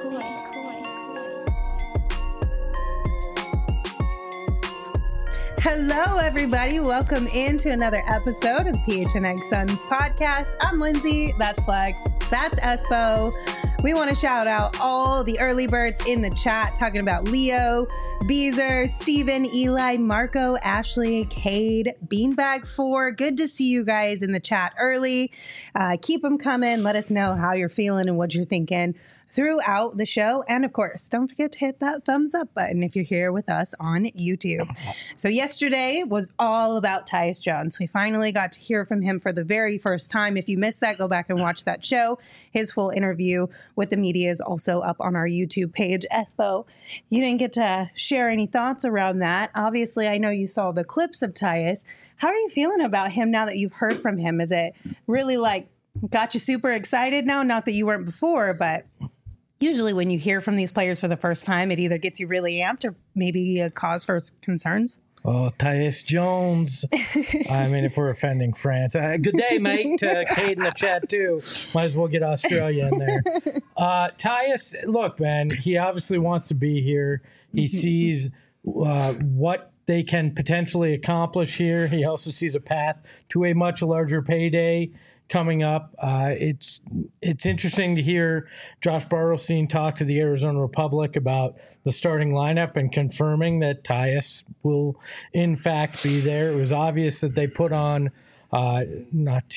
Hello, everybody. Welcome into another episode of the PHNX Suns podcast. I'm Lindsay. That's Flex. That's Espo. We want to shout out all the early birds in the chat talking about Leo, Beezer, Steven, Eli, Marco, Ashley, Cade, Beanbag 4. Good to see you guys in the chat early. Keep them coming. Let us know how you're feeling and what you're thinking throughout the show. And of course, don't forget to hit that thumbs up button if you're here with us on YouTube. So yesterday was all about Tyus Jones. We finally got to hear from him for the very first time. If you missed that, go back and watch that show. His full interview with the media is also up on our YouTube page. Espo, you didn't get to share any thoughts around that. Obviously, I know you saw the clips of Tyus. How are you feeling about him now that you've heard from him? Is it really got you super excited now? Not that you weren't before, but usually when you hear from these players for the first time, it either gets you really amped or maybe a cause for concerns. Oh, Tyus Jones. I mean, if we're offending France. Good day, mate. Cade in the chat, too. Might as well get Australia in there. Tyus, look, man, he obviously wants to be here. He sees what they can potentially accomplish here. He also sees a path to a much larger payday coming up. It's interesting to hear Josh Bartelstein talk to the Arizona Republic about the starting lineup and confirming that Tyus will in fact be there. It was obvious that they put on not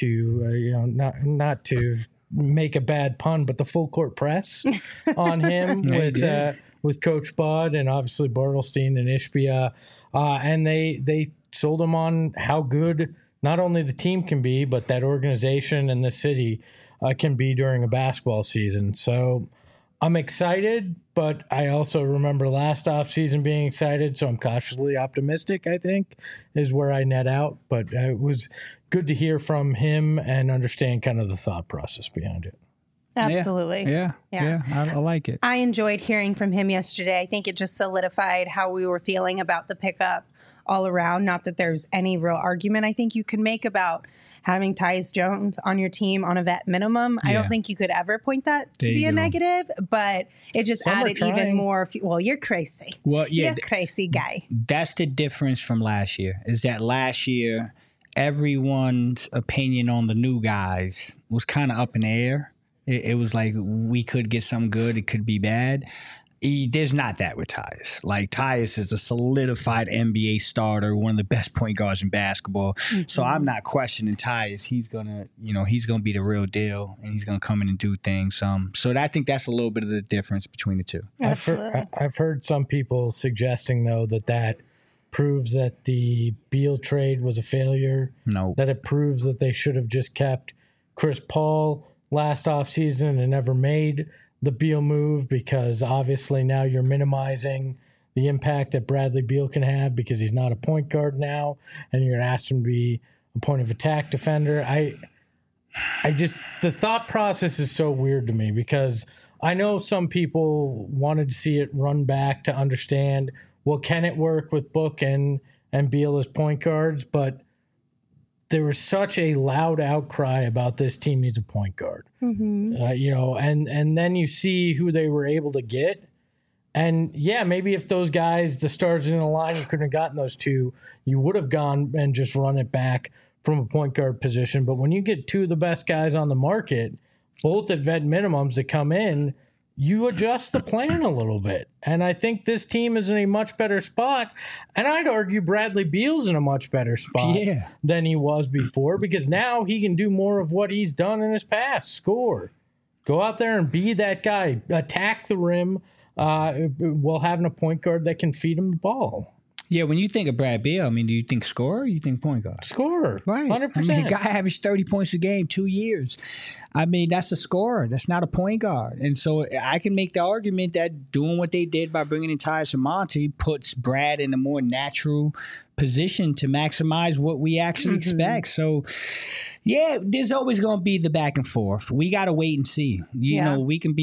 to make a bad pun, but the full court press on him with Coach Bud and obviously Bartelstein and Ishbia, and they sold him on how good not only the team can be, but that organization and the city can be during a basketball season. So I'm excited, but I also remember last offseason being excited, so I'm cautiously optimistic, I think, is where I net out. But it was good to hear from him and understand kind of the thought process behind it. Absolutely. Yeah. I like it. I enjoyed hearing from him yesterday. I think it just solidified how we were feeling about the pickup all around. Not that there's any real argument I think you can make about having Tyus Jones on your team on a vet minimum. Yeah. I don't think you could ever point that to be a negative, but it just added even more. Well, you're crazy. Well, yeah, you're a crazy guy. That's the difference from last year, is that last year, everyone's opinion on the new guys was kind of up in the air. It was like we could get something good. It could be bad. There's not that with Tyus. Like, Tyus is a solidified NBA starter, one of the best point guards in basketball. Mm-hmm. So I'm not questioning Tyus. He's gonna be the real deal, and he's gonna come in and do things. So I think that's a little bit of the difference between the two. I've heard some people suggesting though that proves that the Beal trade was a failure. No, that it proves that they should have just kept Chris Paul last offseason and never made the Beal move, because obviously now you're minimizing the impact that Bradley Beal can have because he's not a point guard now, and you're going to ask him to be a point of attack defender. The thought process is so weird to me, because I know some people wanted to see it run back to understand, well, can it work with Book and Beal as point guards? But there was such a loud outcry about this team needs a point guard, and then you see who they were able to get. And yeah, maybe if those guys, the stars in the line, you couldn't have gotten those two, you would have gone and just run it back from a point guard position. But when you get two of the best guys on the market, both at vet minimums that come in, you adjust the plan a little bit. And I think this team is in a much better spot. And I'd argue Bradley Beal's in a much better spot than he was before, because now he can do more of what he's done in his past. Score. Go out there and be that guy. Attack the rim while having a point guard that can feed him the ball. Yeah, when you think of Brad Beal, I mean, do you think scorer or you think point guard? Scorer, right? 100%. I mean, the guy averaged 30 points a game, 2 years. I mean, that's a scorer. That's not a point guard. And so I can make the argument that doing what they did by bringing in Tyus and Monty puts Brad in a more natural position to maximize what we actually expect. So, yeah, there's always going to be the back and forth. We got to wait and see. You know, we can be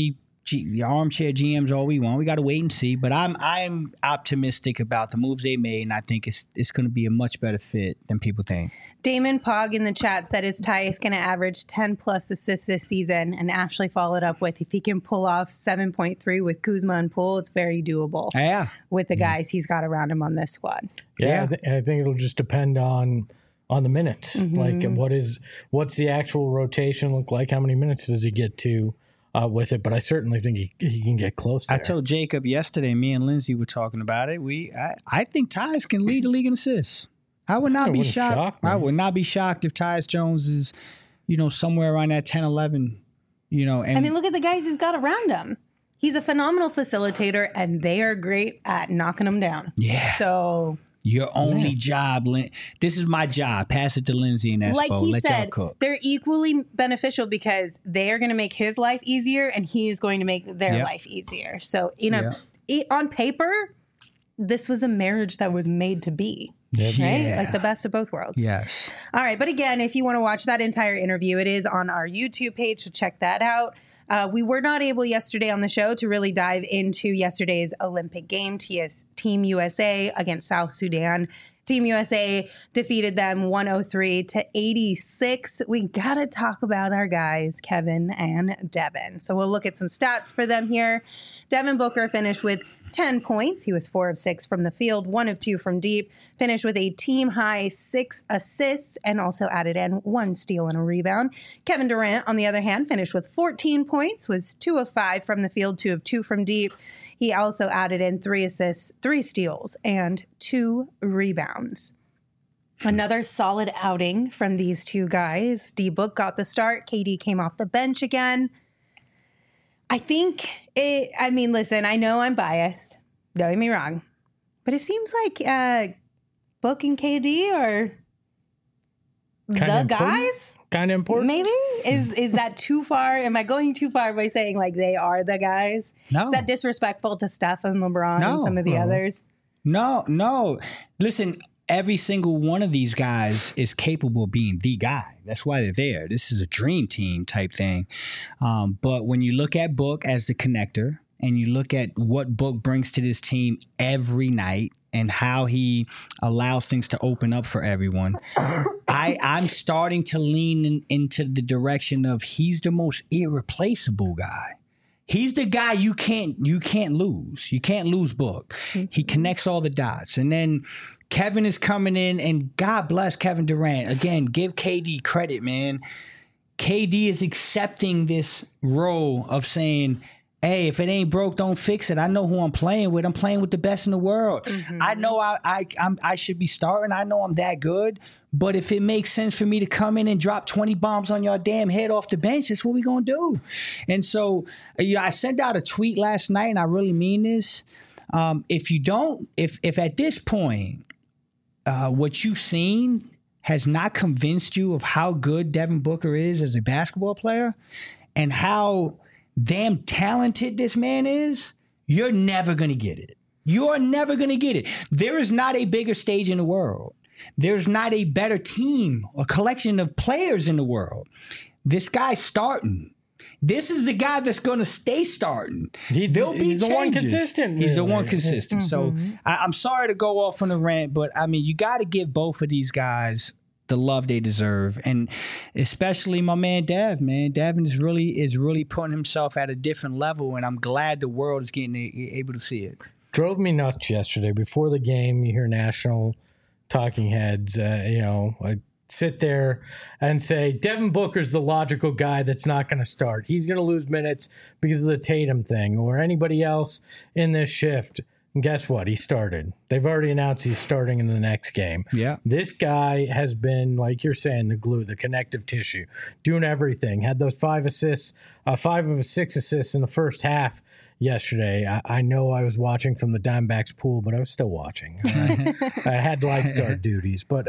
armchair GMs all we want. We got to wait and see. But I'm optimistic about the moves they made, and I think it's going to be a much better fit than people think. Damon Pog in the chat said, is Tyus going to average 10-plus assists this season? And Ashley followed up with, if he can pull off 7.3 with Kuzma and Poole, it's very doable. Yeah. With the guys he's got around him on this squad. Yeah. I think it'll just depend on the minutes. Like, what's the actual rotation look like? How many minutes does he get to with it? But I certainly think he can get close there. I told Jacob yesterday, me and Lindsay were talking about it. I think Tyus can lead the league in assists. I would not be shocked. I would not be shocked if Tyus Jones is, somewhere around that 10, 11, And I mean, look at the guys he's got around him. He's a phenomenal facilitator, and they are great at knocking him down. Yeah. So your only job, this is my job. Pass it to Lindsay and Espo. Like he Let said, y'all cook. They're equally beneficial because they are going to make his life easier, and he is going to make their life easier. So, on paper, this was a marriage that was made to be. Right? Yeah. Like the best of both worlds. Yes. All right. But again, if you want to watch that entire interview, it is on our YouTube page, so check that out. We were not able yesterday on the show to really dive into yesterday's Olympic game, Team USA against South Sudan. Team USA defeated them 103-86. We got to talk about our guys, Kevin and Devin. So we'll look at some stats for them here. Devin Booker finished with 10 points. He was 4 of 6 from the field, 1 of 2 from deep, finished with a team-high 6 assists, and also added in 1 steal and a rebound. Kevin Durant, on the other hand, finished with 14 points, was 2 of 5 from the field, 2 of 2 from deep. He also added in 3 assists, 3 steals, and 2 rebounds. Another solid outing from these two guys. D-Book got the start. KD came off the bench again. Listen, I know I'm biased. Don't get me wrong. But it seems like Book and KD are the guys. Kind of important. Maybe? Is that too far? Am I going too far by saying like they are the guys? No. Is that disrespectful to Steph and LeBron and some of the others? No. Listen, every single one of these guys is capable of being the guy. That's why they're there. This is a dream team type thing. But when you look at Book as the connector and you look at what Book brings to this team every night and how he allows things to open up for everyone, I'm starting to lean into the direction of he's the most irreplaceable guy. He's the guy you can't lose. You can't lose Book. He connects all the dots. And then Kevin is coming in, and God bless Kevin Durant. Again, give KD credit, man. KD is accepting this role of saying, hey, if it ain't broke, don't fix it. I know who I'm playing with. I'm playing with the best in the world. I know I should be starting. I know I'm that good. But if it makes sense for me to come in and drop 20 bombs on your damn head off the bench, that's what we're going to do. And so, I sent out a tweet last night, and I really mean this. If at this point, what you've seen has not convinced you of how good Devin Booker is as a basketball player and how damn talented this man is, you're never going to get it. You're never going to get it. There is not a bigger stage in the world. There's not a better team or collection of players in the world. This guy's starting. This is the guy that's going to stay starting. There'll be he's the one consistent. He's the one consistent. So I'm sorry to go off on a rant, but I mean, you got to give both of these guys the love they deserve, and especially my man Dev. Man, Devin is really putting himself at a different level, and I'm glad the world is getting able to see it. Drove me nuts yesterday. Before the game, you hear national talking heads, sit there and say Devin Booker's the logical guy that's not going to start. He's going to lose minutes because of the Tatum thing or anybody else in this shift. And guess what? He started. They've already announced he's starting in the next game. Yeah. This guy has been, like you're saying, the glue, the connective tissue, doing everything. Had those 5 assists, 5 of 6 assists in the first half yesterday. I know I was watching from the Diamondbacks pool, but I was still watching. I had lifeguard duties. But,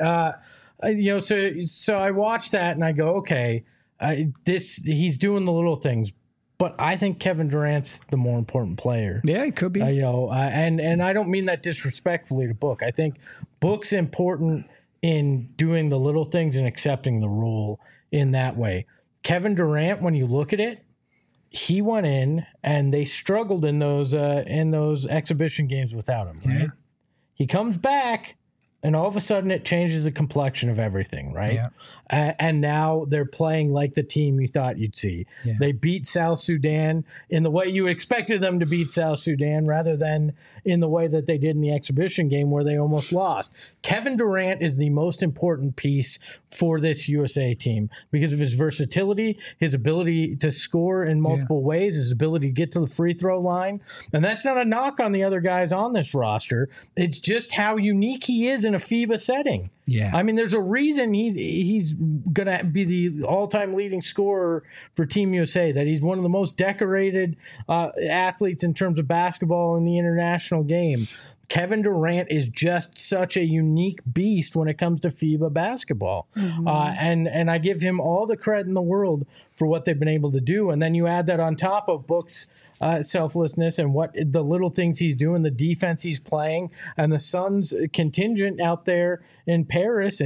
so I watched that and I go, okay, he's doing the little things. But I think Kevin Durant's the more important player. Yeah, it could be. And I don't mean that disrespectfully to Book. I think Book's important in doing the little things and accepting the role in that way. Kevin Durant, when you look at it, he went in and they struggled in those exhibition games without him, right? Yeah. He comes back and all of a sudden it changes the complexion of everything, right? Yeah. And now they're playing like the team you thought you'd see. Yeah. They beat South Sudan in the way you expected them to beat South Sudan rather than in the way that they did in the exhibition game where they almost lost. Kevin Durant is the most important piece for this USA team because of his versatility, his ability to score in multiple ways, his ability to get to the free throw line. And that's not a knock on the other guys on this roster. It's just how unique he is in a FIBA setting. Yeah. I mean, there's a reason he's going to be the all-time leading scorer for Team USA, that he's one of the most decorated athletes in terms of basketball in the international game. Kevin Durant is just such a unique beast when it comes to FIBA basketball. Mm-hmm. And I give him all the credit in the world for what they've been able to do. And then you add that on top of Book's selflessness and what the little things he's doing, the defense he's playing, and the Suns contingent out there in Paris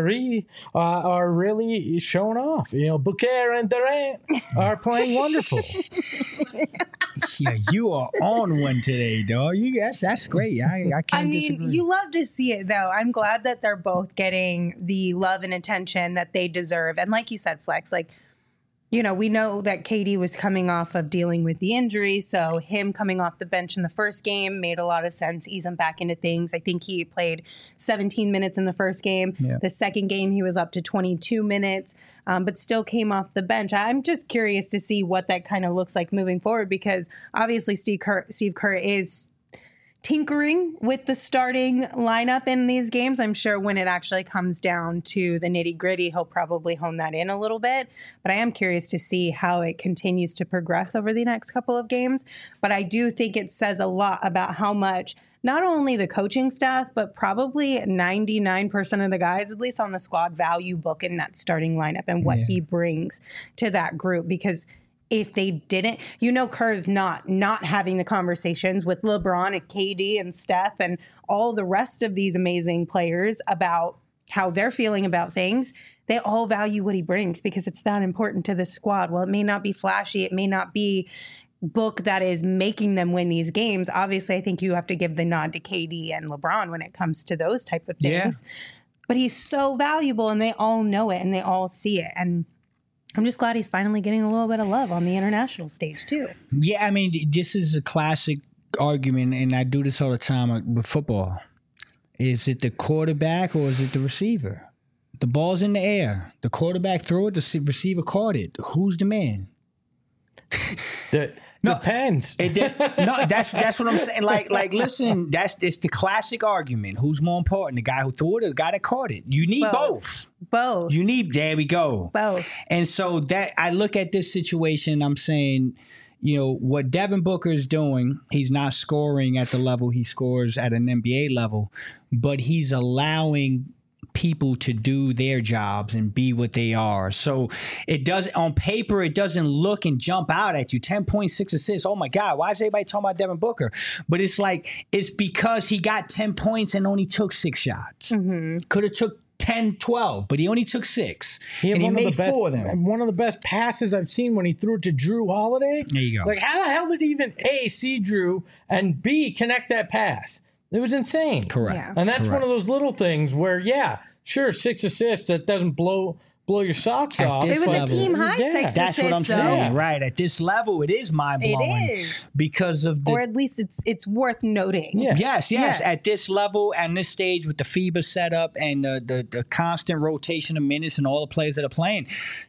are really showing off. You know, Booker and Durant are playing wonderful. Yeah, you are on one today, dog. That's great. I can't disagree. You love to see it, though. I'm glad that they're both getting the love and attention that they deserve. And like you said, Flex, like, you know, we know that KD was coming off of dealing with the injury, so him coming off the bench in the first game made a lot of sense, ease him back into things. I think he played 17 minutes in the first game. Yeah. The second game, he was up to 22 minutes, but still came off the bench. I'm just curious to see what that kind of looks like moving forward, because obviously Steve Kerr is tinkering with the starting lineup in these games. I'm sure when it actually comes down to the nitty gritty, he'll probably hone that in a little bit. But I am curious to see how it continues to progress over the next couple of games. But I do think it says a lot about how much not only the coaching staff, but probably 99% of the guys, at least on the squad, value Book in that starting lineup and what he brings to that group. Because if they didn't, you know, Kerr's not having the conversations with LeBron and KD and Steph and all the rest of these amazing players about how they're feeling about things. They all value what he brings because it's that important to the squad. Well, it may not be flashy. It may not be Book that is making them win these games. Obviously, I think you have to give the nod to KD and LeBron when it comes to those type of things. Yeah. But he's so valuable and they all know it and they all see it. And I'm just glad he's finally getting a little bit of love on the international stage, too. Yeah, I mean, this is a classic argument, and I do this all the time with football. Is it the quarterback or is it the receiver? The ball's in the air. The quarterback threw it, the receiver caught it. Who's the man? Depends. No, that's what I'm saying. Like, listen, it's the classic argument. Who's more important, the guy who threw it or the guy that caught it? You need both. You need. There we go. Both. And so that I look at this situation, I'm saying, you know, what Devin Booker is doing, he's not scoring at the level he scores at an NBA level, but he's allowing people to do their jobs and be what they are. So it does on paper, it doesn't look and jump out at you. 10.6 assists. Oh my God, why is everybody talking about Devin Booker? But it's like, it's because he got 10 points and only took 6 shots. Mm-hmm. Could have took 10, 12, but he only took 6. And he made 4 of them. One of the best passes I've seen when he threw it to Drew Holiday. There you go. Like, how the hell did he even A, see Drew, and B, connect that pass? It was insane. Correct. Yeah. And that's one of those little things where, yeah, sure, 6 assists, that doesn't blow your socks off. It was a team high 6 assists. That's what I'm saying, right? At this level, it is mind-blowing. It is. Because of or at least it's worth noting. Yeah. Yes. At this level and this stage with the FIBA setup and the constant rotation of minutes and all the players that are playing,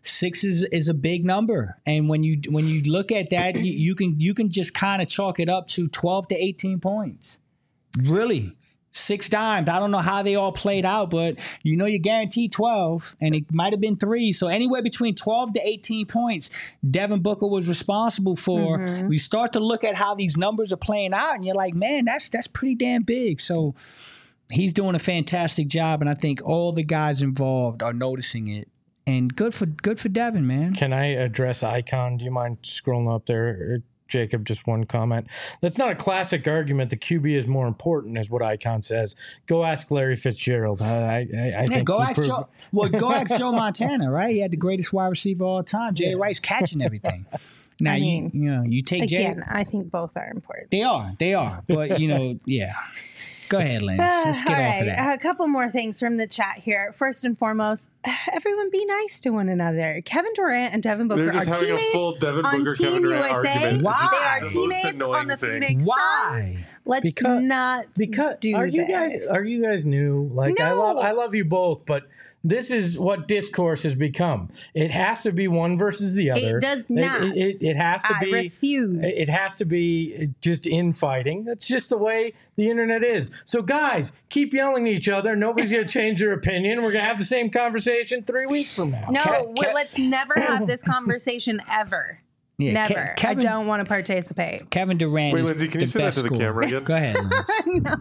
6 is a big number. And when you look at that, you can just kind of chalk it up to 12 to 18 points. Really. 6 dimes. I don't know how they all played out, but you know you're guaranteed 12, and it might have been 3. So anywhere between 12 to 18 points, Devin Booker was responsible for. Mm-hmm. We start to look at how these numbers are playing out, and you're like, man, that's pretty damn big. So he's doing a fantastic job, and I think all the guys involved are noticing it. And good for Devin, man. Can I address Icon? Do you mind scrolling up there? Jacob, just one comment. That's not a classic argument. The QB is more important, is what Icon says. Go ask Larry Fitzgerald. I think go ask Joe Montana, right? He had the greatest wide receiver of all time. Jerry Rice catching everything. Now, I mean, you take again, I think both are important. They are. But, yeah. Go ahead, Lynn. Let's get off of that. A couple more things from the chat here. First and foremost, everyone be nice to one another. Kevin Durant and Devin Booker They're just are having teammates a full Devin on Booker, Team Kevin Durant USA. argument. Why? They are It's just the most teammates annoying on the thing. Phoenix Why? Suns. Let's not do are you this. guys new? Like No. I love you both, but this is what discourse has become. It has to be one versus the other. It does not. It has to I be. refuse. It has to be just infighting. That's just the way the internet is. So guys, keep yelling at each other. Nobody's gonna change their opinion. We're gonna have the same conversation 3 weeks from now. No, let's never have this conversation ever. Yeah, Never. I don't want to participate. Kevin Durant Wait, is Lindsay, can the you say that best to the scorer. camera again? Go ahead, Lindsay.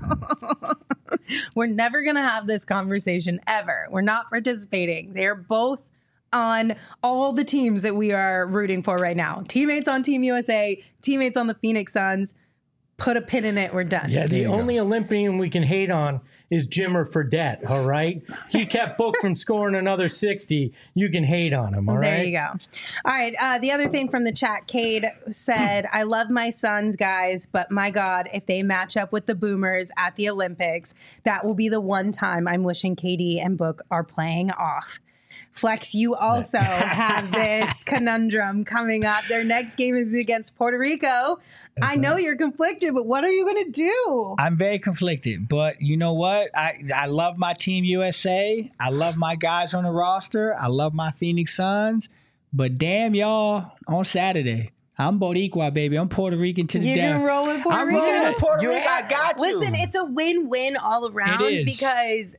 We're never going to have this conversation ever. We're not participating. They're both on all the teams that we are rooting for right now. Teammates on Team USA, teammates on the Phoenix Suns. Put a pin in it. We're done. Yeah, the only Olympian we can hate on is Jimmer Fredette, all right? He kept Book from scoring another 60. You can hate on him, all right? There you go. All right. The other thing from the chat, Cade said, I love my Suns, guys, but my God, if they match up with the Boomers at the Olympics, that will be the one time I'm wishing KD and Book are playing off. Flex, you also have this conundrum coming up. Their next game is against Puerto Rico. I know you're conflicted, but what are you going to do? I'm very conflicted, but you know what? I love my Team USA. I love my guys on the roster. I love my Phoenix Suns. But damn, y'all, on Saturday, I'm Boricua, baby. I'm Puerto Rican to the You're down. going to roll with Puerto I'm Rico? rolling with Puerto Rico. I got you. Listen, it's a win-win all around It is. because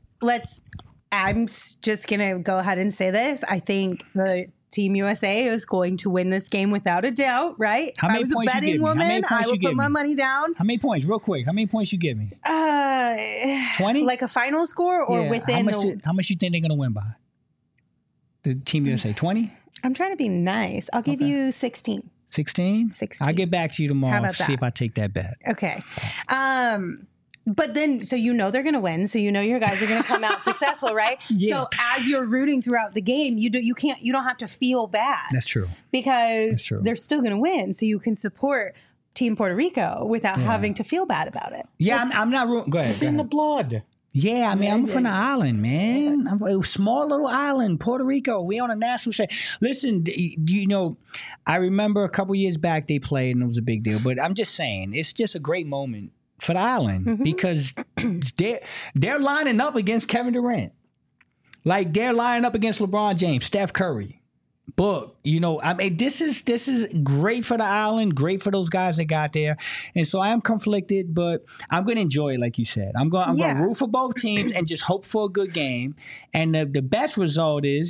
I'm just going to go ahead and say this. I think the Team USA is going to win this game without a doubt, right? How many I was a points you betting give me? How many woman. points I you would give put my me? money down. How many points? Real quick. How many points you give me? 20? Like a final score or within how much you think they're going to win by? The Team USA, 20? I'm trying to be nice. I'll give you 16. 16? 16. I'll get back to you tomorrow. How about See that? if I take that bet. Okay. But then, so they're going to win. So your guys are going to come out successful, right? Yeah. So as you're rooting throughout the game, you don't have to feel bad. That's true. Because true. they're still going to win. So you can support Team Puerto Rico without having to feel bad about it. Yeah, I'm not rooting. Go ahead. It's in the blood. Yeah, I mean, I'm from the island, man. I'm a small little island, Puerto Rico. We on a national stage. Listen, I remember a couple years back they played and it was a big deal. But I'm just saying, it's just a great moment for the island because they're lining up against Kevin Durant. Like they're lining up against LeBron James, Steph Curry, Book. I mean, this is great for the island, great for those guys that got there. And so I am conflicted, but I'm going to enjoy it, like you said. I'm going to root for both teams and just hope for a good game. And the best result is,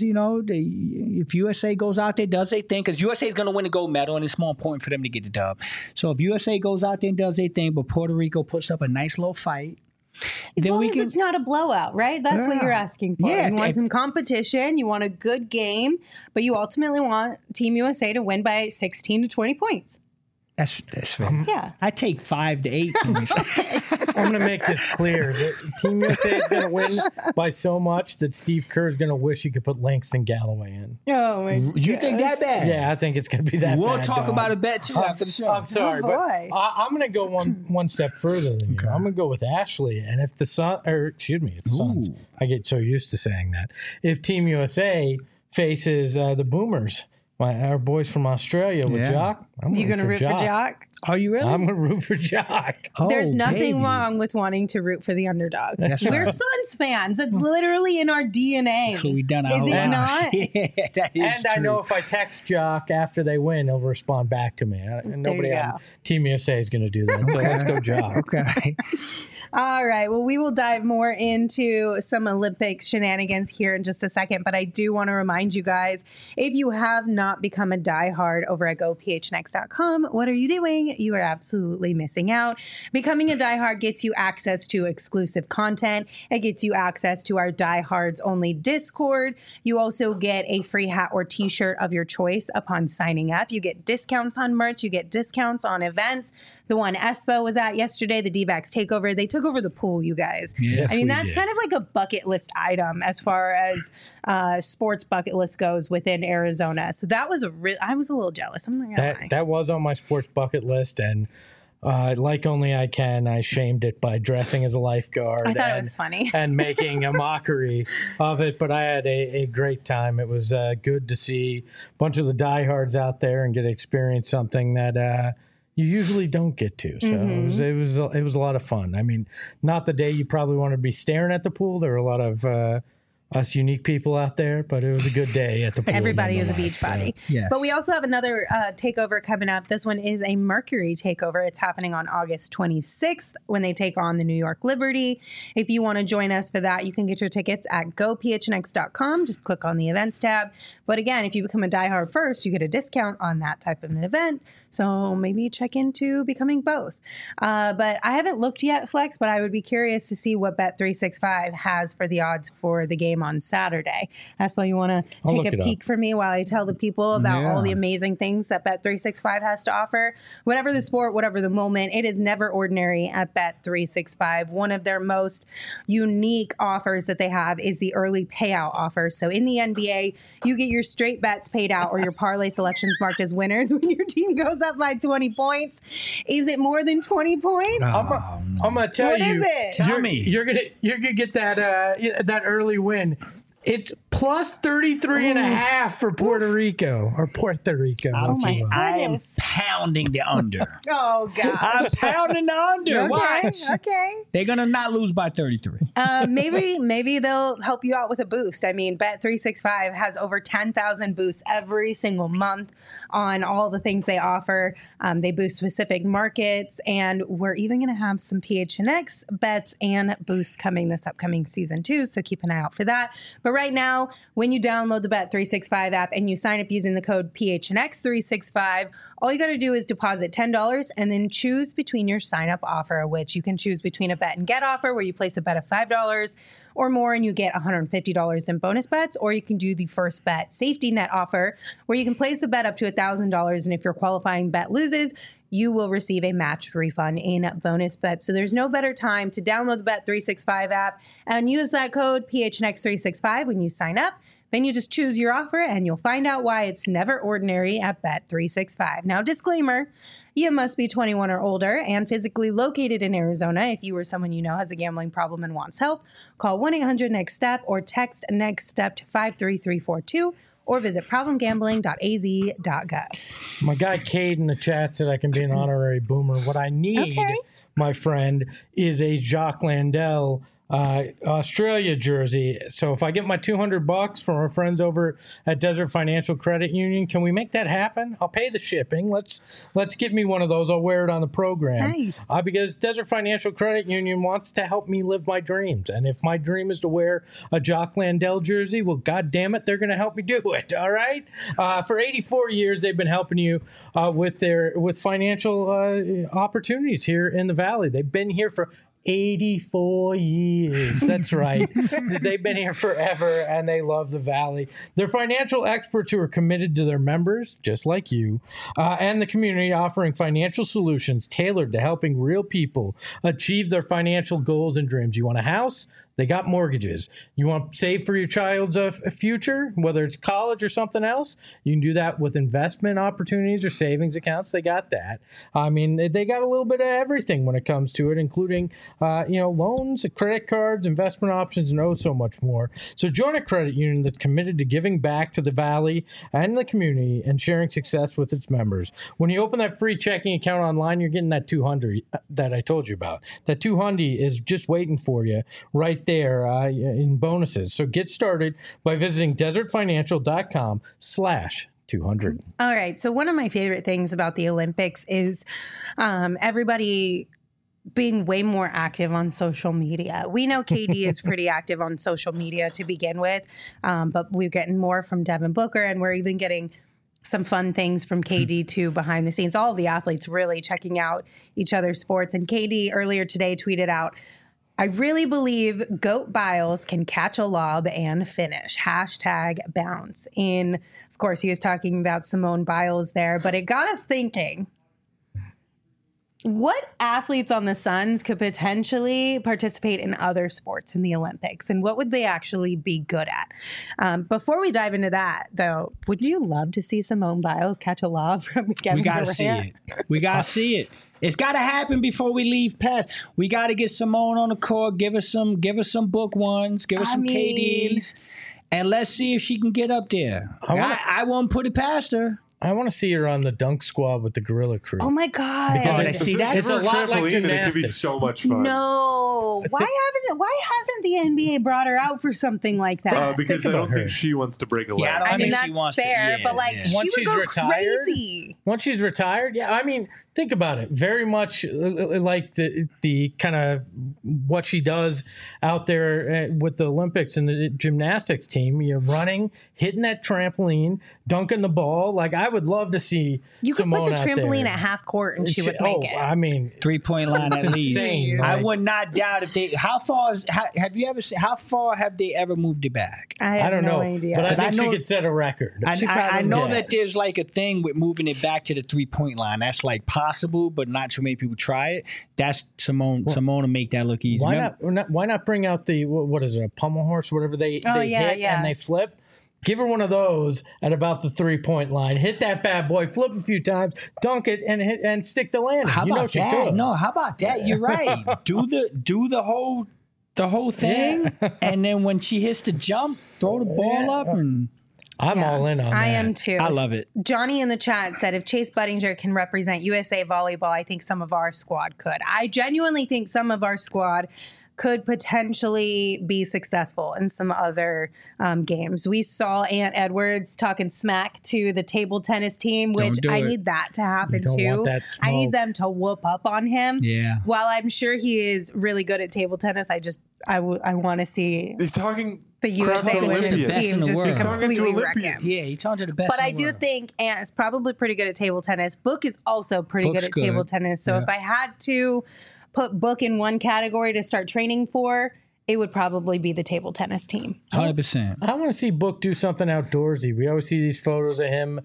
if USA goes out there, does their thing, because USA is going to win the gold medal, and it's more important for them to get the dub. So if USA goes out there and does their thing, but Puerto Rico puts up a nice little fight, As long as it's not a blowout, right? That's what you're asking for. Yeah, You want some competition. You want a good game, but you ultimately want Team USA to win by 16 to 20 points. That's fair. Yeah. I take 5 to 8. I'm going to make this clear. That Team USA is going to win by so much that Steve Kerr is going to wish he could put Langston Galloway in. Oh, my You think that bad? Yeah, I think it's going to be that We'll bad, talk dog. about a bet, too, after the show. I'm sorry, Oh, but boy. I'm going to go one step further than you. I'm going to go with Ashley. And if the Suns, I get so used to saying that. If Team USA faces the Boomers, our boys from Australia with Jock, You going to root for Jock? Are you really? I'm going to root for Jock. There's nothing baby. wrong with wanting to root for the underdog. That's We're right. Suns fans. That's literally in our DNA. So we done our Is whole it lives. not? Yeah, that is And I true. know if I text Jock after they win, he'll respond back to me. And nobody you on go. Team USA is going to do that. So let's go Jock. Okay. All right. Well, we will dive more into some Olympics shenanigans here in just a second. But I do want to remind you guys, if you have not become a diehard over at gophnx.com, what are you doing? You are absolutely missing out. Becoming a diehard gets you access to exclusive content. It gets you access to our diehards only Discord. You also get a free hat or t-shirt of your choice upon signing up. You get discounts on merch. You get discounts on events. The one Espo was at yesterday, the D-backs takeover, they took took over the pool, you guys. Yes, I mean, we that's did. kind of like a bucket list item as far as sports bucket list goes within Arizona. So that was I was a little jealous. I'm not gonna lie. That was on my sports bucket list, and like only I can, I shamed it by dressing as a lifeguard. I thought it was funny. and making a mockery of it. But I had a great time. It was good to see a bunch of the diehards out there and get to experience something that you usually don't get to. So it was a lot of fun. I mean, not the day you probably want to be staring at the pool. There were a lot of us unique people out there, but it was a good day at the pool. Everybody is a beach body. Yes. But we also have another takeover coming up. This one is a Mercury takeover. It's happening on August 26th when they take on the New York Liberty. If you want to join us for that, you can get your tickets at gophnx.com. Just click on the events tab. But again, if you become a diehard first, you get a discount on that type of an event. So maybe check into becoming both. But I haven't looked yet, Flex, but I would be curious to see what Bet365 has for the odds for the game on Saturday. Espo, you want to take a peek for me while I tell the people about all the amazing things that Bet365 has to offer? Whatever the sport, whatever the moment, it is never ordinary at Bet365. One of their most unique offers that they have is the early payout offer. So in the NBA, you get your straight bets paid out or your parlay selections marked as winners when your team goes up by 20 points. Is it more than 20 points? I'm gonna tell What you. is it? Tell me. You're gonna get that early win. It's plus 33 and a half for Puerto Rico or Puerto Rico. I'm my telling- I am goodness. pounding the under. Oh, God. I'm pounding the under. Okay, Watch. okay. They're going to not lose by 33. Maybe they'll help you out with a boost. I mean, Bet365 has over 10,000 boosts every single month on all the things they offer. They boost specific markets, and we're even going to have some PHNX bets and boosts coming this upcoming season too. So keep an eye out for that. But right now, when you download the Bet365 app and you sign up using the code PHNX365, all you got to do is deposit $10 and then choose between your sign up offer, which you can choose between a bet and get offer where you place a bet of $5 or more and you get $150 in bonus bets, or you can do the first bet safety net offer where you can place a bet up to $1,000. And if your qualifying bet loses, you will receive a matched refund in bonus bets. So there's no better time to download the Bet365 app and use that code PHNX365 when you sign up. Then you just choose your offer and you'll find out why it's never ordinary at Bet365. Now, disclaimer, you must be 21 or older and physically located in Arizona. If you or someone you know has a gambling problem and wants help, call 1-800-NEXT-STEP or text NEXT STEP to 53342 or visit problemgambling.az.gov. My guy Cade in the chat said I can be an honorary boomer. What I need, my friend, is a Jacques Landel Australia jersey. So if I get my $200 from our friends over at Desert Financial Credit Union, can we make that happen? I'll pay the shipping. Let's get me one of those. I'll wear it on the program. Nice. Because Desert Financial Credit Union wants to help me live my dreams. And if my dream is to wear a Jacques Landel jersey, well, God damn it, they're going to help me do it. All right. For 84 years, they've been helping you with financial opportunities here in the Valley. They've been here for 84 years. That's right. They've been here forever and they love the Valley. They're financial experts who are committed to their members, just like you, and the community, offering financial solutions tailored to helping real people achieve their financial goals and dreams. You want a house? They got mortgages. You want to save for your child's future, whether it's college or something else? You can do that with investment opportunities or savings accounts. They got that. I mean, they got a little bit of everything when it comes to it, including loans, credit cards, investment options, and oh so much more. So join a credit union that's committed to giving back to the Valley and the community and sharing success with its members. When you open that free checking account online, you're getting that $200 that I told you about. That $200 is just waiting for you right there in bonuses. So get started by visiting desertfinancial.com/200. All right. So one of my favorite things about the Olympics is everybody being way more active on social media. We know KD is pretty active on social media to begin with, but we're getting more from Devin Booker, and we're even getting some fun things from KD too behind the scenes. All of the athletes really checking out each other's sports. And KD earlier today tweeted out, "I really believe Goat Biles can catch a lob and finish. #bounce." And of course, he was talking about Simone Biles there, but it got us thinking. what athletes on the Suns could potentially participate in other sports in the Olympics, and what would they actually be good at? Before we dive into that, though, would you love to see Simone Biles catch a lob from Kevin We gotta Durant? see it. We gotta see it. It's gotta happen before we leave past. We gotta get Simone on the court. Give us some book ones. Give us some KDs, and let's see if she can get up there. I won't put it past her. I want to see her on the dunk squad with the Gorilla Crew. Oh my God! Because that's a lot like trampoline, and it could be gymnastics. so much fun. No, why hasn't the NBA brought her out for something like that? Because Think I about don't think her. she wants to break a leg. Yeah, I don't I mean, think she that's wants to- fair, yeah, but like yeah. she Once would she's go retired- crazy. Once she's retired, yeah, I mean, think about it. Very much like the kind of what she does out there with the Olympics and the gymnastics team. You're running, hitting that trampoline, dunking the ball. Like, I would love to see You could Simone put the out trampoline there. at half court and she would make it. I mean, 3-point line at It's least. insane, I like- would not doubt if they. How far have they ever moved it back? I I have don't no know, idea. but I But I think she know- could set a record. I know Yeah. that there's like a thing with moving it back to the 3-point line. That's like possible, but not too many people try it. That's Simone. Simone to make that look easy. Why not bring out the what is it, a pommel horse, whatever they hit and they flip? Give her one of those at about the 3-point line. Hit that bad boy, flip a few times, dunk it, and stick the landing. How about she that? could. No, how about that? You're right. Do the whole thing, and then when she hits the jump, throw the ball up, and I'm all in on that. I am too. I love it. Johnny in the chat said if Chase Budinger can represent USA volleyball, I think some of our squad could. I genuinely think some of our squad could potentially be successful in some other games. We saw Ant Edwards talking smack to the table tennis team, which do I it. need that to happen don't too. want that I need smoke. them to whoop up on him. Yeah. While I'm sure he is really good at table tennis, I want to see He's talking the USA crap to women's Olympians. team in the just world. He's talking to completely wreck Olympians. him. yeah, he talked to the best. But in I the do world. think Ant is probably pretty good at table tennis. Book is also pretty Book's good at table good. tennis. So if I had to put Book in one category to start training for, it would probably be the table tennis team. 100%. I want to see Book do something outdoorsy. We always see these photos of him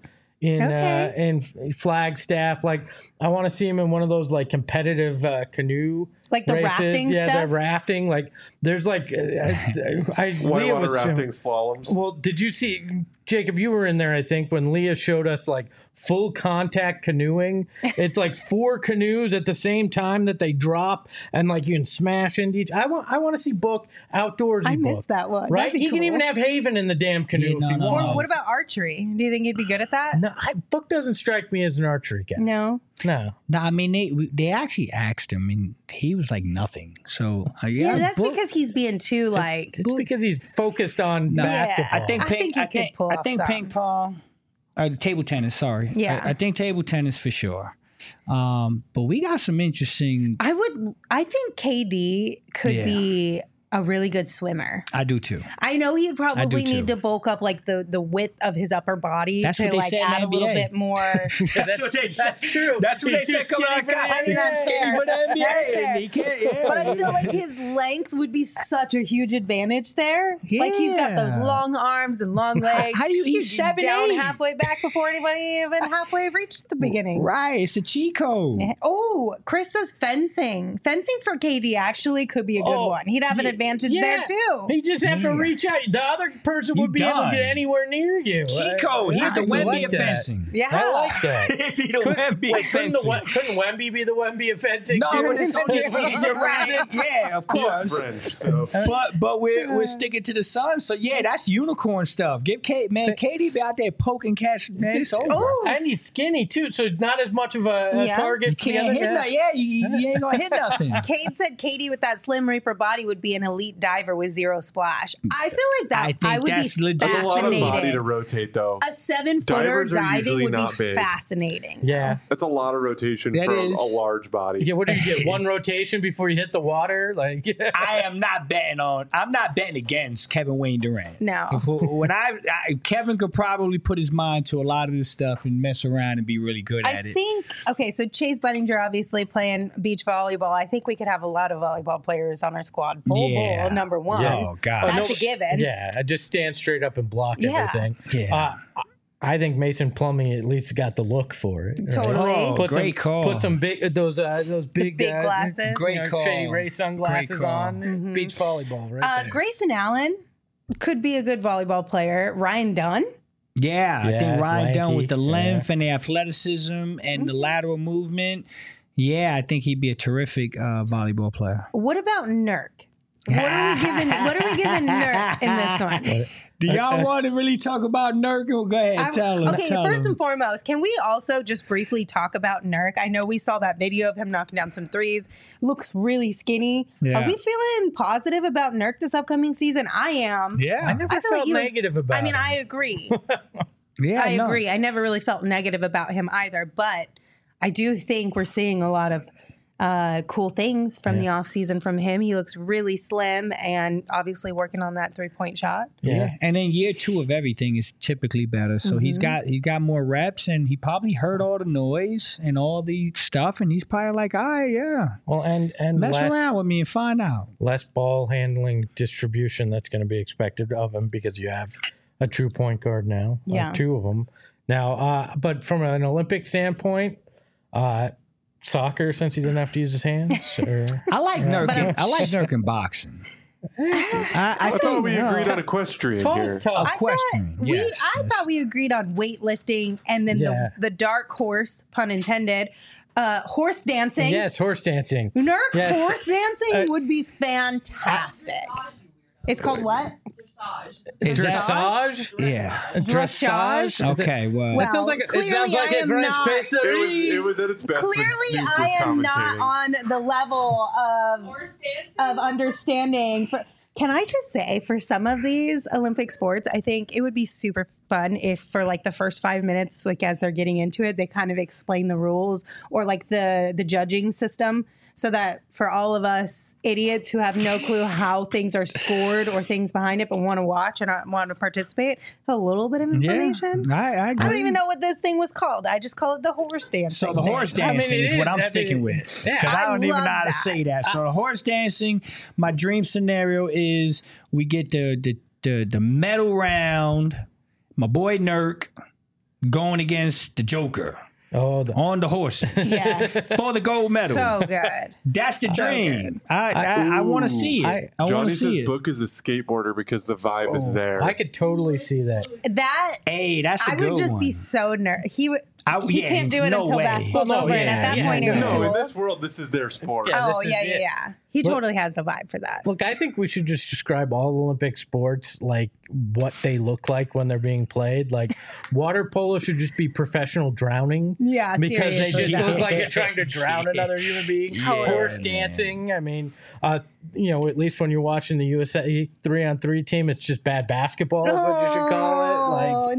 in Flagstaff. Like, I want to see him in one of those like competitive canoe. Like the races. rafting yeah, stuff? the rafting. Like, there's like, Leah whitewater was rafting slaloms. Well, did you see, Jacob? You were in there, I think, when Leah showed us like full contact canoeing. It's like 4 canoes at the same time that they drop, and like you can smash into each. I want to see Book outdoorsy. I Book, missed that one. Right? That'd be He can cool. even have Haven in the damn canoe Yeah, if no, he no, wants. no. What about archery? Do you think he'd be good at that? No, Book doesn't strike me as an archery guy. No. No. No, I mean they actually asked him, and he was like nothing. So Yeah, that's Book- because he's being too like. It's because he's focused on basketball. I think I think he could pull off ping some. pong, table tennis. Sorry, Yeah. I think table tennis for sure. But we got some interesting. I think KD could Yeah. be a really good swimmer. I do too. I know he'd probably too. need to bulk up like the width of his upper body That's to what they like said in add the a little NBA. bit more. That's true. That's what He's they too said coming skinny out. for the God, I mean, he's that's too skinny fair. for the NBA. That is fair. He can't, yeah. But I feel like his length would be such a huge advantage there. Like he's got those Yeah. long arms and long legs. How do you- he's He'd be down 7'8". halfway back before anybody even halfway reached the beginning. Right, it's a cheat code. Oh, Chris says fencing. Fencing for KD actually could be a good one. He'd have an advantage there too. He just have to Yeah. reach out. The other person You would be able to done. get anywhere near you. Cheat code. He's the I Wemby like of that. fencing. Yeah. I like that. He'd be the Wemby of Couldn't fencing. Wemby be the Wemby of fencing No, too? but it's only you're right. Yeah, of He's course. French, so But we're sticking to the sun, so yeah, that's unicorn stuff. Give Kate, man, Katie be out there poking cats, man. It's over. Oh, And he's skinny too, so not as much of a Yeah. target. You can't hit nothing. Yeah, you ain't gonna hit nothing. Cade said Katie with that Slim Reaper body would be an elite diver with zero splash. I feel like that I think would that's be legit. there's a lot of body to fascinating. rotate though. A 7-footer Divers are diving usually would not be big. fascinating. Yeah. That's a lot of rotation That for is. a large body. Yeah, what do you get? One rotation before you hit the water? Like I'm not betting against Kevin Wayne Durant. No. When Kevin could probably put his mind to a lot of this stuff and mess around and be really good at I it. think, okay, so Chase Budinger obviously playing beach volleyball. I think we could have a lot of volleyball players on our squad. Bull, Yeah. number one. Oh, God. That's a given. Yeah, I just stand straight up and block Yeah. everything. Yeah. I think Mason Plumlee at least got the look for it. Right? Totally. Oh, great call. Put some big those big glasses. Great call. Shady Ray sunglasses Great call. on. Beach volleyball, right there. Grayson Allen could be a good volleyball player. Ryan Dunn. Yeah, I Yeah, think Ryan Dunn lanky, with the length and the athleticism and the lateral movement. Yeah, I think he'd be a terrific volleyball player. What about Nurk? What are we giving Nurk in this one? Do y'all want to really talk about Nurk? Go ahead, tell him. Okay, first and foremost, can we also just briefly talk about Nurk? I know we saw that video of him knocking down some threes. Looks really skinny. Yeah. Are we feeling positive about Nurk this upcoming season? I am. Yeah, I never feel felt he looks- negative about I mean, him. I agree. yeah, I agree. I never really felt negative about him either, but I do think we're seeing a lot of cool things from the offseason from him. He looks really slim and obviously working on that 3-point shot. Yeah, and then year 2 of everything is typically better. So he's got more reps, and he probably heard all the noise and all the stuff, and he's probably like, all right, yeah, Well, and mess around with me and find out. less ball handling distribution that's going to be expected of him because you have a true point guard now. Yeah. 2 of them now. But from an Olympic standpoint, soccer, since he didn't have to use his hands. Or, I like Nurk in boxing. I thought we agreed on equestrian Tall's here. tough. I thought we agreed on weightlifting and then Yeah. the dark horse, pun intended, horse dancing. Yes, horse dancing. Nurk Yes. horse dancing would be fantastic. It's called what? Is that, Dressage? yeah. Dressage? Okay, well, Well, It sounds like clearly I I am French not- pastry. It was at its best when Clearly, Snoop was I am not commentating. on the level of understanding. Can I just say, for some of these Olympic sports, I think it would be super fun if, for like the first 5 minutes, like as they're getting into it, they kind of explain the rules or like the judging system, so that for all of us idiots who have no clue how things are scored or things behind it, but want to watch and want to participate, a little bit of information. I agree. I don't even know what this thing was called. I just call it the horse dancing. So the horse thing. dancing it is what is. I'm I sticking mean, with. yeah. Because I don't even love know how to that. say that. So the horse dancing, my dream scenario is we get the medal round, my boy Nurk going against the Joker Oh, on the horse Yes. for the gold medal. So good. That's the So dream. I want to see it. I want Johnny to says see it. book is a skateboarder because the vibe is there. I could totally see that. That Hey, that's a I good would just one. be so nervous. He Yeah, can't do it no until way. basketball's Well, no, over, and at yeah, that yeah, point, no. you're no, too in old. this world, this is their sport. Yeah. Oh this is yeah, it. yeah, yeah. He Look- totally has a vibe for that. Look, I think we should just describe all Olympic sports like what they look like when they're being played. Like water polo should just be professional drowning. Yeah, Because they seriously. just look like you're trying to drown another human being. Totally. Horse dancing. I mean, at least when you're watching the USA 3-on-3 team, it's just bad basketball is what you should call it. Like, Oh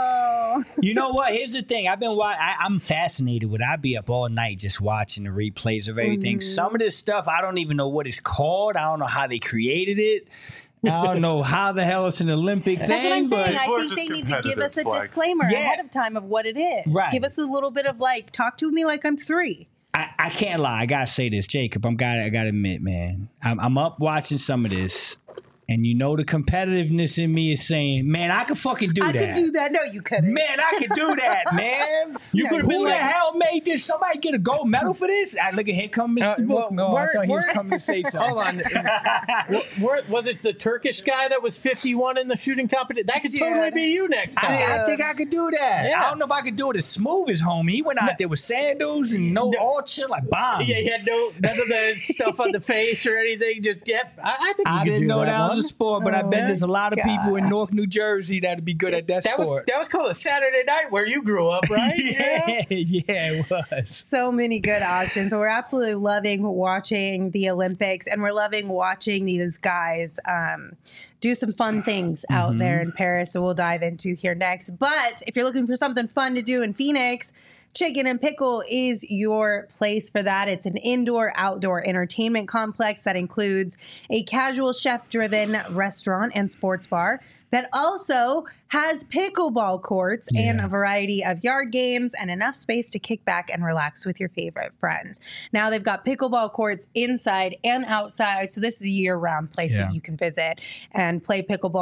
no! You know what? Here's the thing. I'm fascinated with. I'd be up all night just watching the replays of everything. Some of this stuff I don't even know what it's called. I don't know how they created it. I don't know how the hell it's an Olympic thing. That's what I'm saying. people I are think just they need to give us a competitive, Flex. disclaimer Yeah. ahead of time of what it is. Right. Give us a little bit of like, talk to me like I'm 3. I can't lie. I gotta say this, Jacob. I gotta admit, man. I'm up watching some of this, and you know the competitiveness in me is saying, man, I could fucking do I that. could do that. No, you couldn't. Man, I could do that, man. You could've been Who the like- hell made this? Somebody get a gold medal for this? I look at here come Mr. Book. No, I thought he was coming to say something. hold on. Was it the Turkish guy that was 51 in the shooting competition? That could Dude. totally be you next time. I think I could do that. Yeah. I don't know if I could do it as smooth as homie. He went out there with sandals and all chill like bomb. Yeah, he had none of the stuff on the face or anything. Just I think you I could didn't do know that one. was a sport, but I bet there's a lot of people in gosh. North New Jersey that'd be good at that sport. That was called a Saturday night where you grew up, right? yeah, it was. So many good options, but we're absolutely loving watching the Olympics, and we're loving watching these guys do some fun things out there in Paris. So we'll dive into here next. But if you're looking for something fun to do in Phoenix, Chicken and Pickle is your place for that. It's an indoor-outdoor entertainment complex that includes a casual chef-driven restaurant and sports bar that also has pickleball courts and a variety of yard games and enough space to kick back and relax with your favorite friends. Now they've got pickleball courts inside and outside, so this is a year-round place that you can visit and play pickleball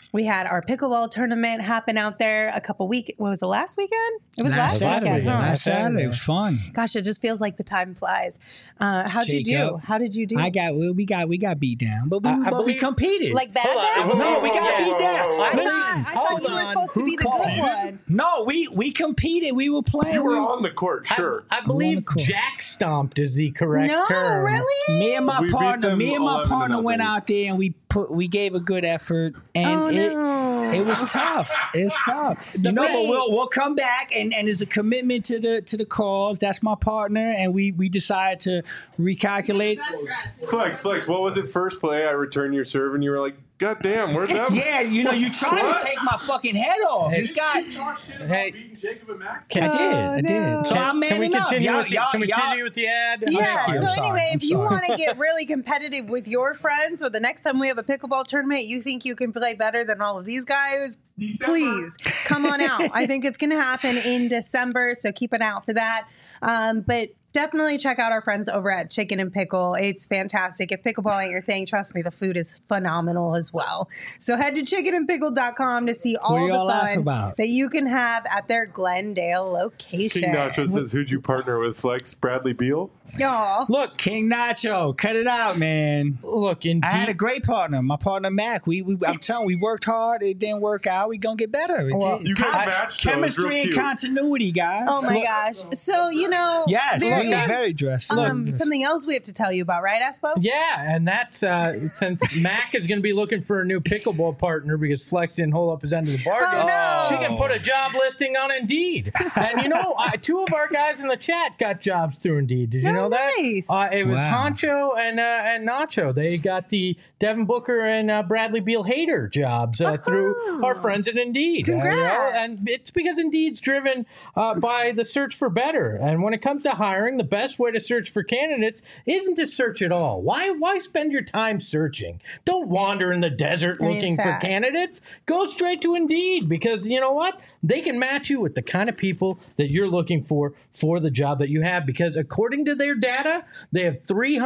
We had our pickleball tournament happen out there a couple weeks. What was it, last weekend? It was last Saturday. weekend. Huh? Last Saturday. It was fun. Gosh, it just feels like the time flies. How'd you do? Jacob. How did you do? We got beat down, but we competed. Like bad? No, we got beat down. I thought you were supposed to be the good one. No, we competed. We were playing. You were on the court, sure. I believe Jack stomped is the correct No, term. really? Me and my We beat partner them 11-0. went out there and we gave a good effort, and it was tough. It was tough. But we'll come back, and it's a commitment to the cause. That's my partner, and we decided to recalculate. Flex, what was it? First play, I returned your serve, and you were like, God damn, where's that? Yeah, you trying to take my fucking head off. This guy. Hey, Beating Jacob and Max? I did. So I'm can we manning up. continue with the ad? Yeah, I'm so sorry. anyway, if you sorry. want to get really competitive with your friends, or the next time we have a pickleball tournament, you think you can play better than all of these guys, please come on out. I think it's going to happen in December, so keep an eye out for that. But definitely check out our friends over at Chicken and Pickle. It's fantastic. If pickleball ain't your thing, trust me, the food is phenomenal as well. So head to chickenandpickle.com to see all the fun that you can have at their Glendale location. King Nacho says, who'd you partner with, Flex? Bradley Beal? Aw. Look, King Nacho, cut it out, man. Look, indeed. I had a great partner, my partner Mac. I'm telling you, we worked hard. It didn't work out. We gonna get better. You guys matched, though. It was real chemistry and cute. continuity, guys. Oh my gosh. So, Yes, there we were is, very dressed. something else we have to tell you about, right, Espo? Yeah, and that's since Mac is going to be looking for a new pickleball partner because Flex didn't hold up his end of the bargain, Oh, no. she can put a job listing on Indeed. And two of our guys in the chat got jobs through Indeed. Did you know that? Nice. It was Honcho and Nacho. They got the Devin Booker and Bradley Beal hater jobs through our friends at Indeed. Congrats. And it's because Indeed's driven by the search for better. And when it comes to hiring, the best way to search for candidates isn't to search at all. Why spend your time searching? Don't wander in the desert looking for candidates. Go straight to Indeed, because you know what? They can match you with the kind of people that you're looking for the job that you have, because according to their data, they have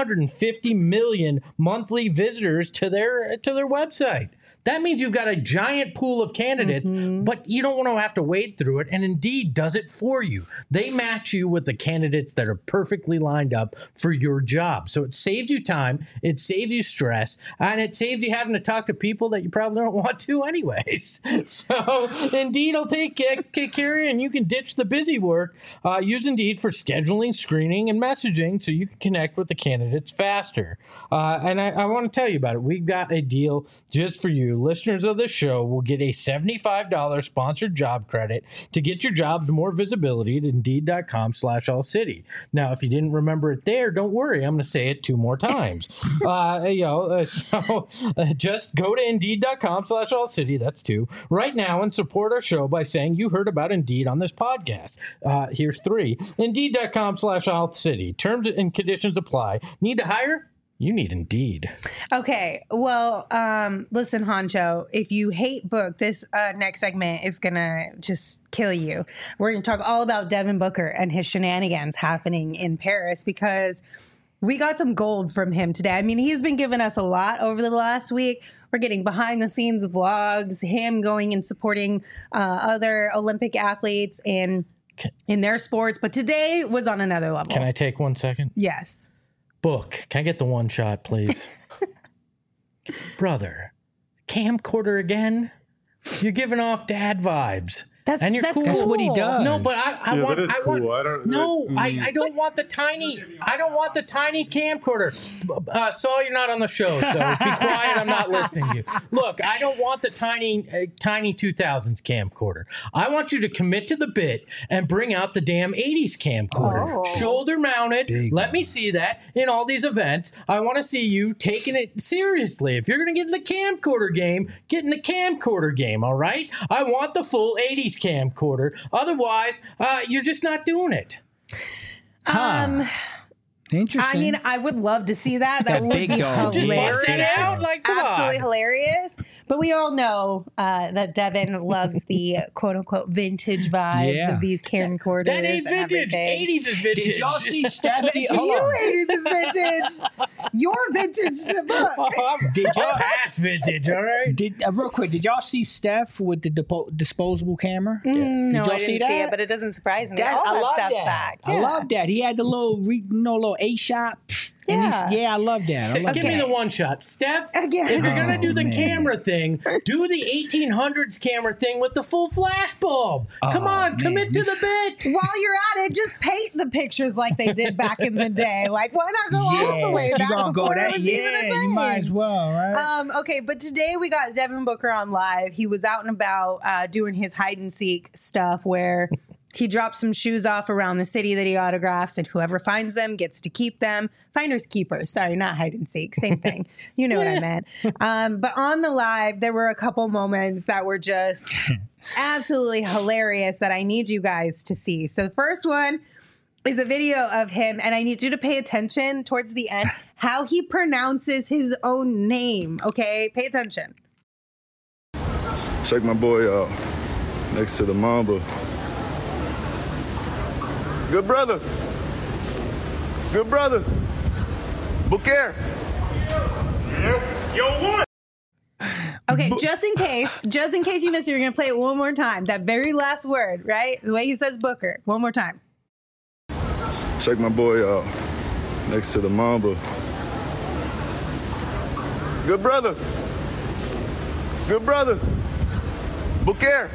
350 million monthly visitors to their website. That means you've got a giant pool of candidates, but you don't want to have to wade through it. And Indeed does it for you. They match you with the candidates that are perfectly lined up for your job. So it saves you time, it saves you stress, and it saves you having to talk to people that you probably don't want to anyways. So Indeed will take care of you, and you can ditch the busy work. Use Indeed for scheduling, screening, and messaging so you can connect with the candidates faster. And I want to tell you about it. We've got a deal just for you. Listeners of the show will get a $75 sponsored job credit to get your jobs more visibility at Indeed.com/allcity. Now, if you didn't remember it there, don't worry. I'm going to say it 2 more times. Just go to Indeed.com/allcity. That's 2 right now and support our show by saying you heard about Indeed on this podcast. Here's 3. Indeed.com/allcity. Terms and conditions apply. Need to hire? You need Indeed. Okay. Well, listen, Honcho, if you hate Book, this next segment is going to just kill you. We're going to talk all about Devin Booker and his shenanigans happening in Paris, because we got some gold from him today. I mean, he's been giving us a lot over the last week. We're getting behind the scenes vlogs, him going and supporting other Olympic athletes in their sports. But today was on another level. Can I take 1 second? Yes. Book, can I get the one shot, please? Brother, camcorder again? You're giving off dad vibes. That's cool. That's what he does. No, but I want. That is cool. I don't want the tiny. I don't want the tiny camcorder. Saul, you're not on the show, so be quiet. I'm not listening to you. Look, I don't want the tiny 2000s camcorder. I want you to commit to the bit and bring out the damn 80s camcorder, shoulder mounted. Let me see that in all these events. I want to see you taking it seriously. If you're going to get in the camcorder game, get in the camcorder game. All right. I want the full 80s camcorder. Otherwise, you're just not doing it. Interesting. I mean, I would love to see that. That would big be dog. hilarious. Just bust it out. Like, come Absolutely on. hilarious. But we all know that Devin loves the quote unquote vintage vibes of these camcorders. That ain't vintage. 80s is vintage. Did y'all see Steph? To you, 80s is vintage. Your vintage to book. Did y'all Past vintage, all right? real quick? Did y'all see Steph with the disposable camera? No, Did y'all I didn't see it, but it doesn't surprise me. All I that love stuff's that. back. I love that. He had the little 8-shot. Yeah. I love that. I love Give me that. the one shot. Steph, Again. if you're going to do the man. camera thing, do the 1800s camera thing with the full flash bulb. Come on, man. commit to the bit. While you're at it, just paint the pictures like they did back in the day. Like, why not go all the way if back you gonna before go that, it was even a thing? you might as well, right? Okay, but today we got Devin Booker on live. He was out and about doing his hide and seek stuff where he drops some shoes off around the city that he autographs, and whoever finds them gets to keep them. Finders keepers. Sorry, not hide and seek. Same thing. You know what I meant. But on the live, there were a couple moments that were just absolutely hilarious that I need you guys to see. So the first one is a video of him, and I need you to pay attention towards the end how he pronounces his own name. Okay, pay attention. Check my boy out next to the Mamba. Good brother. Good brother. Booker. Yo, what? Okay, just in case you missed it, you're gonna play it one more time. That very last word, right? The way he says Booker. One more time. Check my boy out next to the Mamba. Good brother. Good brother. Booker.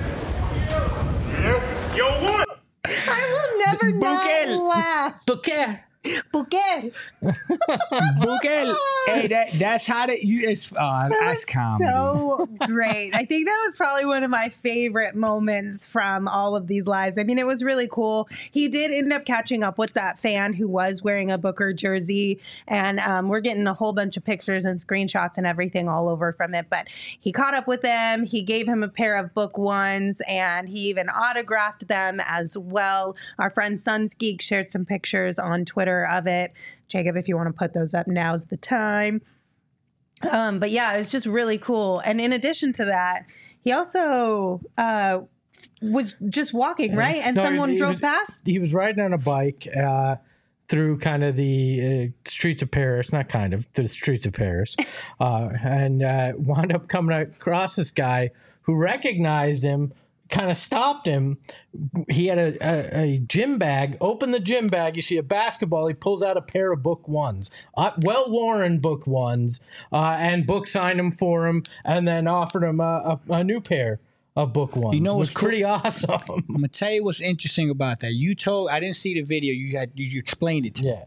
Yo, what? I will never not laugh. Bouquet. Bouquet. Booker. Hey, that's how it's that's comedy. So great. I think that was probably one of my favorite moments from all of these lives. I mean, it was really cool. He did end up catching up with that fan who was wearing a Booker jersey, and we're getting a whole bunch of pictures and screenshots and everything all over from it. But he caught up with them. He gave him a pair of Book Ones, and he even autographed them as well. Our friend Sunsgeek shared some pictures on Twitter of it. Jacob, if you want to put those up, now's the time. But yeah, it was just really cool. And in addition to that, he also was just walking, right? And No, someone he drove past? He was riding on a bike through kind of the streets of Paris, not kind of, through the streets of Paris, and wound up coming across this guy who recognized him, kind of stopped him. He had a gym bag. Open the gym bag. You see a basketball. He pulls out a pair of Book Ones, well-worn Book Ones, and Book signed them for him, and then offered him a new pair of Book Ones. You know what's it was pretty awesome. I'm gonna tell you what's interesting about that. I didn't see the video. You explained it to me,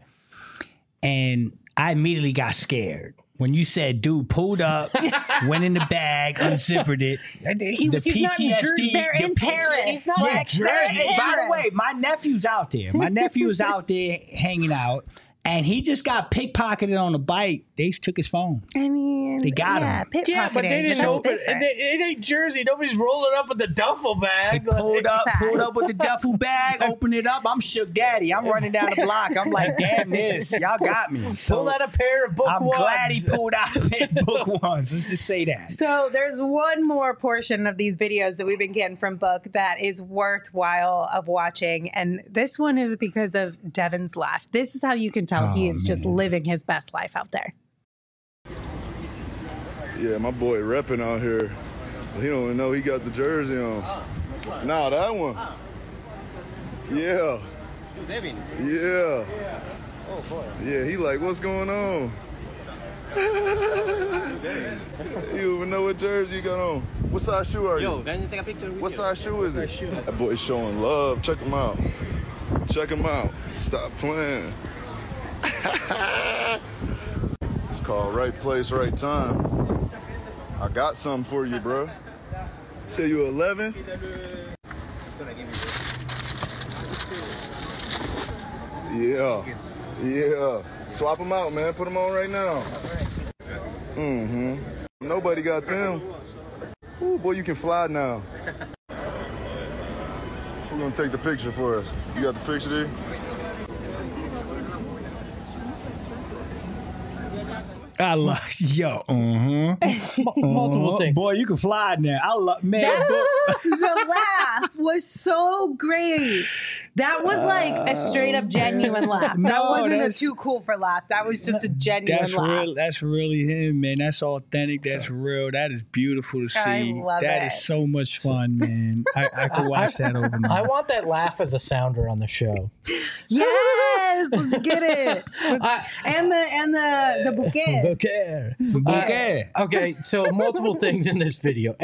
and I immediately got scared. When you said, dude pulled up, went in the bag, unzippered it. He's not in Jersey. They're in Paris. He's not in Jersey. By the way, my nephew's out there. My nephew is out there hanging out, and he just got pickpocketed on a bike. They took his phone. I mean, They got him. Yeah, but they didn't open. It ain't Jersey. Nobody's rolling up with the duffel bag. They pulled up with the duffel bag, opened it up. I'm shook daddy. I'm running down the block. I'm like, damn this. Y'all got me. So Pulled out a pair of Book I'm Ones. glad he pulled out a pair of Book Ones. Let's just say that. So there's one more portion of these videos that we've been getting from Book that is worthwhile of watching. And this one is because of Devin's laugh. This is how you can tell he is just living his best life out there. Yeah, my boy repping out here. He don't even know he got the jersey on. Nah, that one. Yeah. Devin. Yeah. Oh boy. Yeah, he like, what's going on? You don't even know what jersey you got on. What size shoe are you? Yo, can you take a picture with What you? size shoe is it? That boy's showing love. Check him out. Check him out. Stop playing. It's called right place, right time. I got something for you, bro. Say you 11? Yeah. Yeah. Swap them out, man. Put them on right now. Mm-hmm. Nobody got them. Ooh, boy, you can fly now. Who's gonna take the picture for us? You got the picture there? I love Multiple things. Boy, you can fly now. I love man. The laugh was so great. That was like a straight up genuine laugh. That No, wasn't a that's- too cool for laugh. That was just a genuine That's laugh. real. That's really him, man. That's authentic. That's real. That is beautiful to see. I love That it. is so much fun, man. I could watch that over and I over. want that laugh as a sounder on the show. Yes, let's get it. And the bouquet. Okay. Okay. Okay, so multiple things in this video.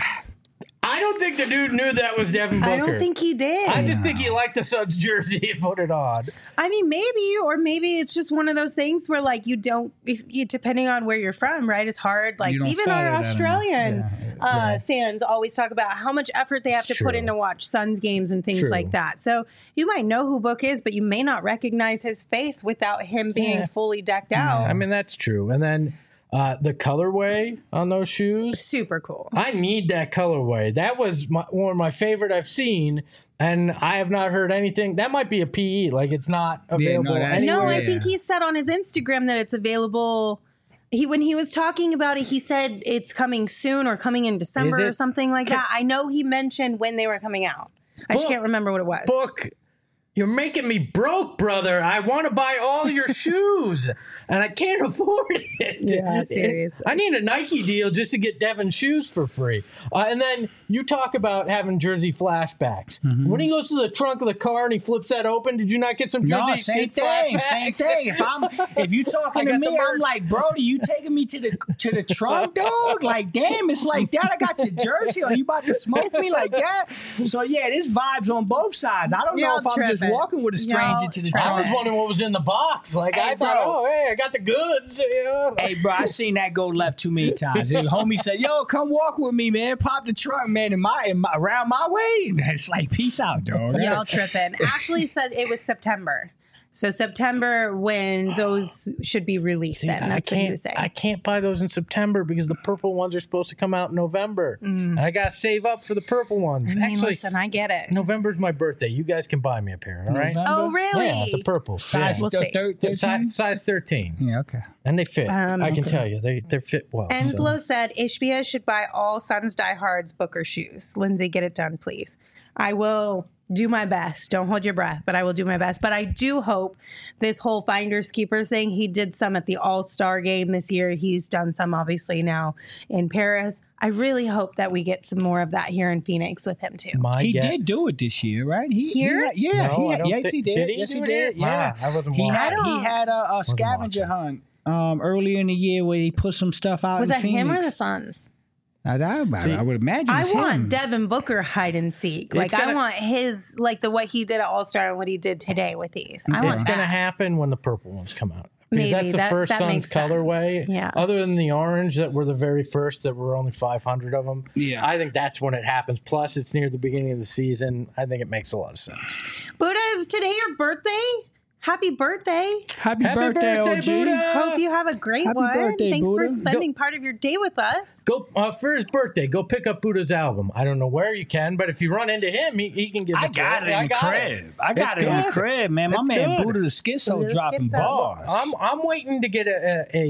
I don't think the dude knew that was Devin Booker. I don't think he did. I just think he liked the Suns jersey and put it on. I mean, maybe it's just one of those things where, like, you don't, depending on where you're from, right? It's hard. Like, You don't even our follow that Australian enough. fans always talk about how much effort they have to It's put true. in to watch Suns games and things True. like that. So you might know who Book is, but you may not recognize his face without him being Yeah. fully decked out. I mean, that's true. And then the colorway on those shoes. Super cool. I need that colorway. That was one of my favorite I've seen, and I have not heard anything. That might be a PE, like it's not available that's- No, anywhere. I think he said on his Instagram that it's available. When he was talking about it, he said it's coming soon or coming in December Is it? or something like that. I know he mentioned when they were coming out. I just Book- can't remember what it was. Book, you're making me broke, brother. I want to buy all your shoes, and I can't afford it. Yeah, seriously. I need a Nike deal just to get Devin's shoes for free. And then you talk about having jersey flashbacks. When he goes to the trunk of the car and he flips that open, did you not get some jersey No, same thing. Same thing. If you talking to got me, the I'm merch. like, Brody, you taking me to the trunk, dog? Like, damn, it's like that. I got your jersey. Are you about to smoke me like that? So yeah, there's vibes on both sides. I don't know Y'all if I'm just tripping. walking with a stranger Y'all to the tripping. I was trunk. wondering what was in the box. Like Hey, I thought, bro. oh, hey, I got the goods. You know? Hey, bro, I seen that go left too many times. The homie said, "Yo, come walk with me, man. Pop the trunk, man, in my around my way." And it's like, peace out, dog. Y'all tripping. Ashley said it was September. So September when those should be released. See, Then that's what he was saying. I can't buy those in September because the purple ones are supposed to come out in November. And I got to save up for the purple ones. I mean, Actually, listen, I get it. November's my birthday. You guys can buy me a pair, all right? Oh, really? Yeah, the purple. Size, We'll see. 13? Size 13. Yeah, okay. And they fit. I can tell you. They fit well. Enslow said Ishbia should buy all Suns diehards Booker shoes. Lindsay, get it done, please. I will do my best. Don't hold your breath, but I will do my best. But I do hope this whole finders keepers thing, he did some at the All-Star game this year. He's done some obviously now in Paris. I really hope that we get some more of that here in Phoenix with him too. He did do it this year, right? Here? Yeah, No, I don't yes, thi- he did. did he Yes, do he it did. here? Yeah, Wow, I wasn't he watching. had a scavenger hunt earlier in the year where he put some stuff out. Was in that him or Phoenix. the Suns? I would imagine. I it's want him. Devin Booker hide and seek. Like I gonna- want his what he did at All Star and what he did today with these. I want It's going to that. happen when the purple ones come out. Because Maybe. that's the first That Suns makes sense. colorway. Yeah. Other than the orange that were the very first, that were only 500 of them. Yeah. I think that's when it happens. Plus, it's near the beginning of the season. I think it makes a lot of sense. Buddha, is today your birthday? Happy birthday. Happy birthday, OG. Buddha! Hope you have a great Happy one. birthday, Thanks Buddha. for spending part of your day with us. Go for his birthday. Go pick up Buddha's album. I don't know where you can, but if you run into him, he can give it I to got you. it in the crib. I got It's it in the good. crib, man. My It's man good. Buddha the Schizo Buddha the dropping Schizo. bars. I'm waiting to get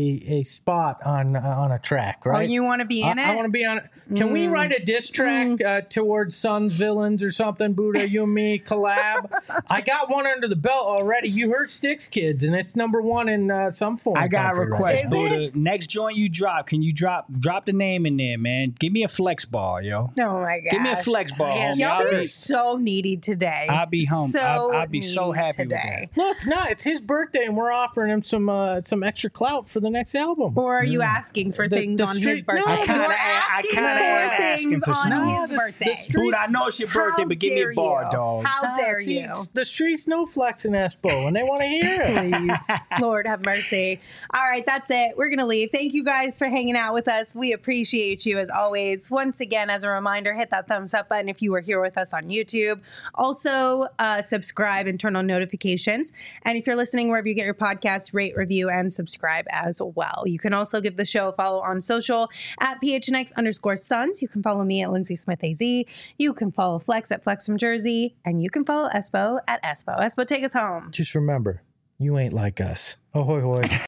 a spot on a track. Right? Oh, you want to be in I it? want to be on it. Can we write a diss track towards Suns villains or something? Buddha, you and me collab. I got one under the belt already. You heard Sticks Kids, and it's number one in some form. I got a country right request, now. Buddha. Next joint you drop, can you drop the name in there, man? Give me a flex bar, yo. Oh my god. Give me a flex bar, homie. Y'all I'll are be- so needy today. I'll be home. I'll be so needy happy with today. that. Look, no, it's his birthday, and we're offering him some extra clout for the next album. Or are you asking for The- things the on his street- birthday? No, I You're kinda asking am for asking things for on some. his The birthday. street- Buddha, I know it's your birthday, How but give me a dare bar, you? dog. How dare See, you? the streets know Flex and Espo, and they want to hear it. Please. Lord have mercy. All right, that's it. We're going to leave. Thank you guys for hanging out with us. We appreciate you as always. Once again, as a reminder, hit that thumbs up button if you were here with us on YouTube. Also, subscribe and turn on notifications. And if you're listening wherever you get your podcasts, rate, review, and subscribe as well. You can also give the show a follow on social at PHNX_Suns. You can follow me at Lindsay Smith AZ. You can follow Flex at Flex from Jersey. And you can follow Espo at Espo. Espo, take us home. Just remember, you ain't like us. Ahoy, hoy.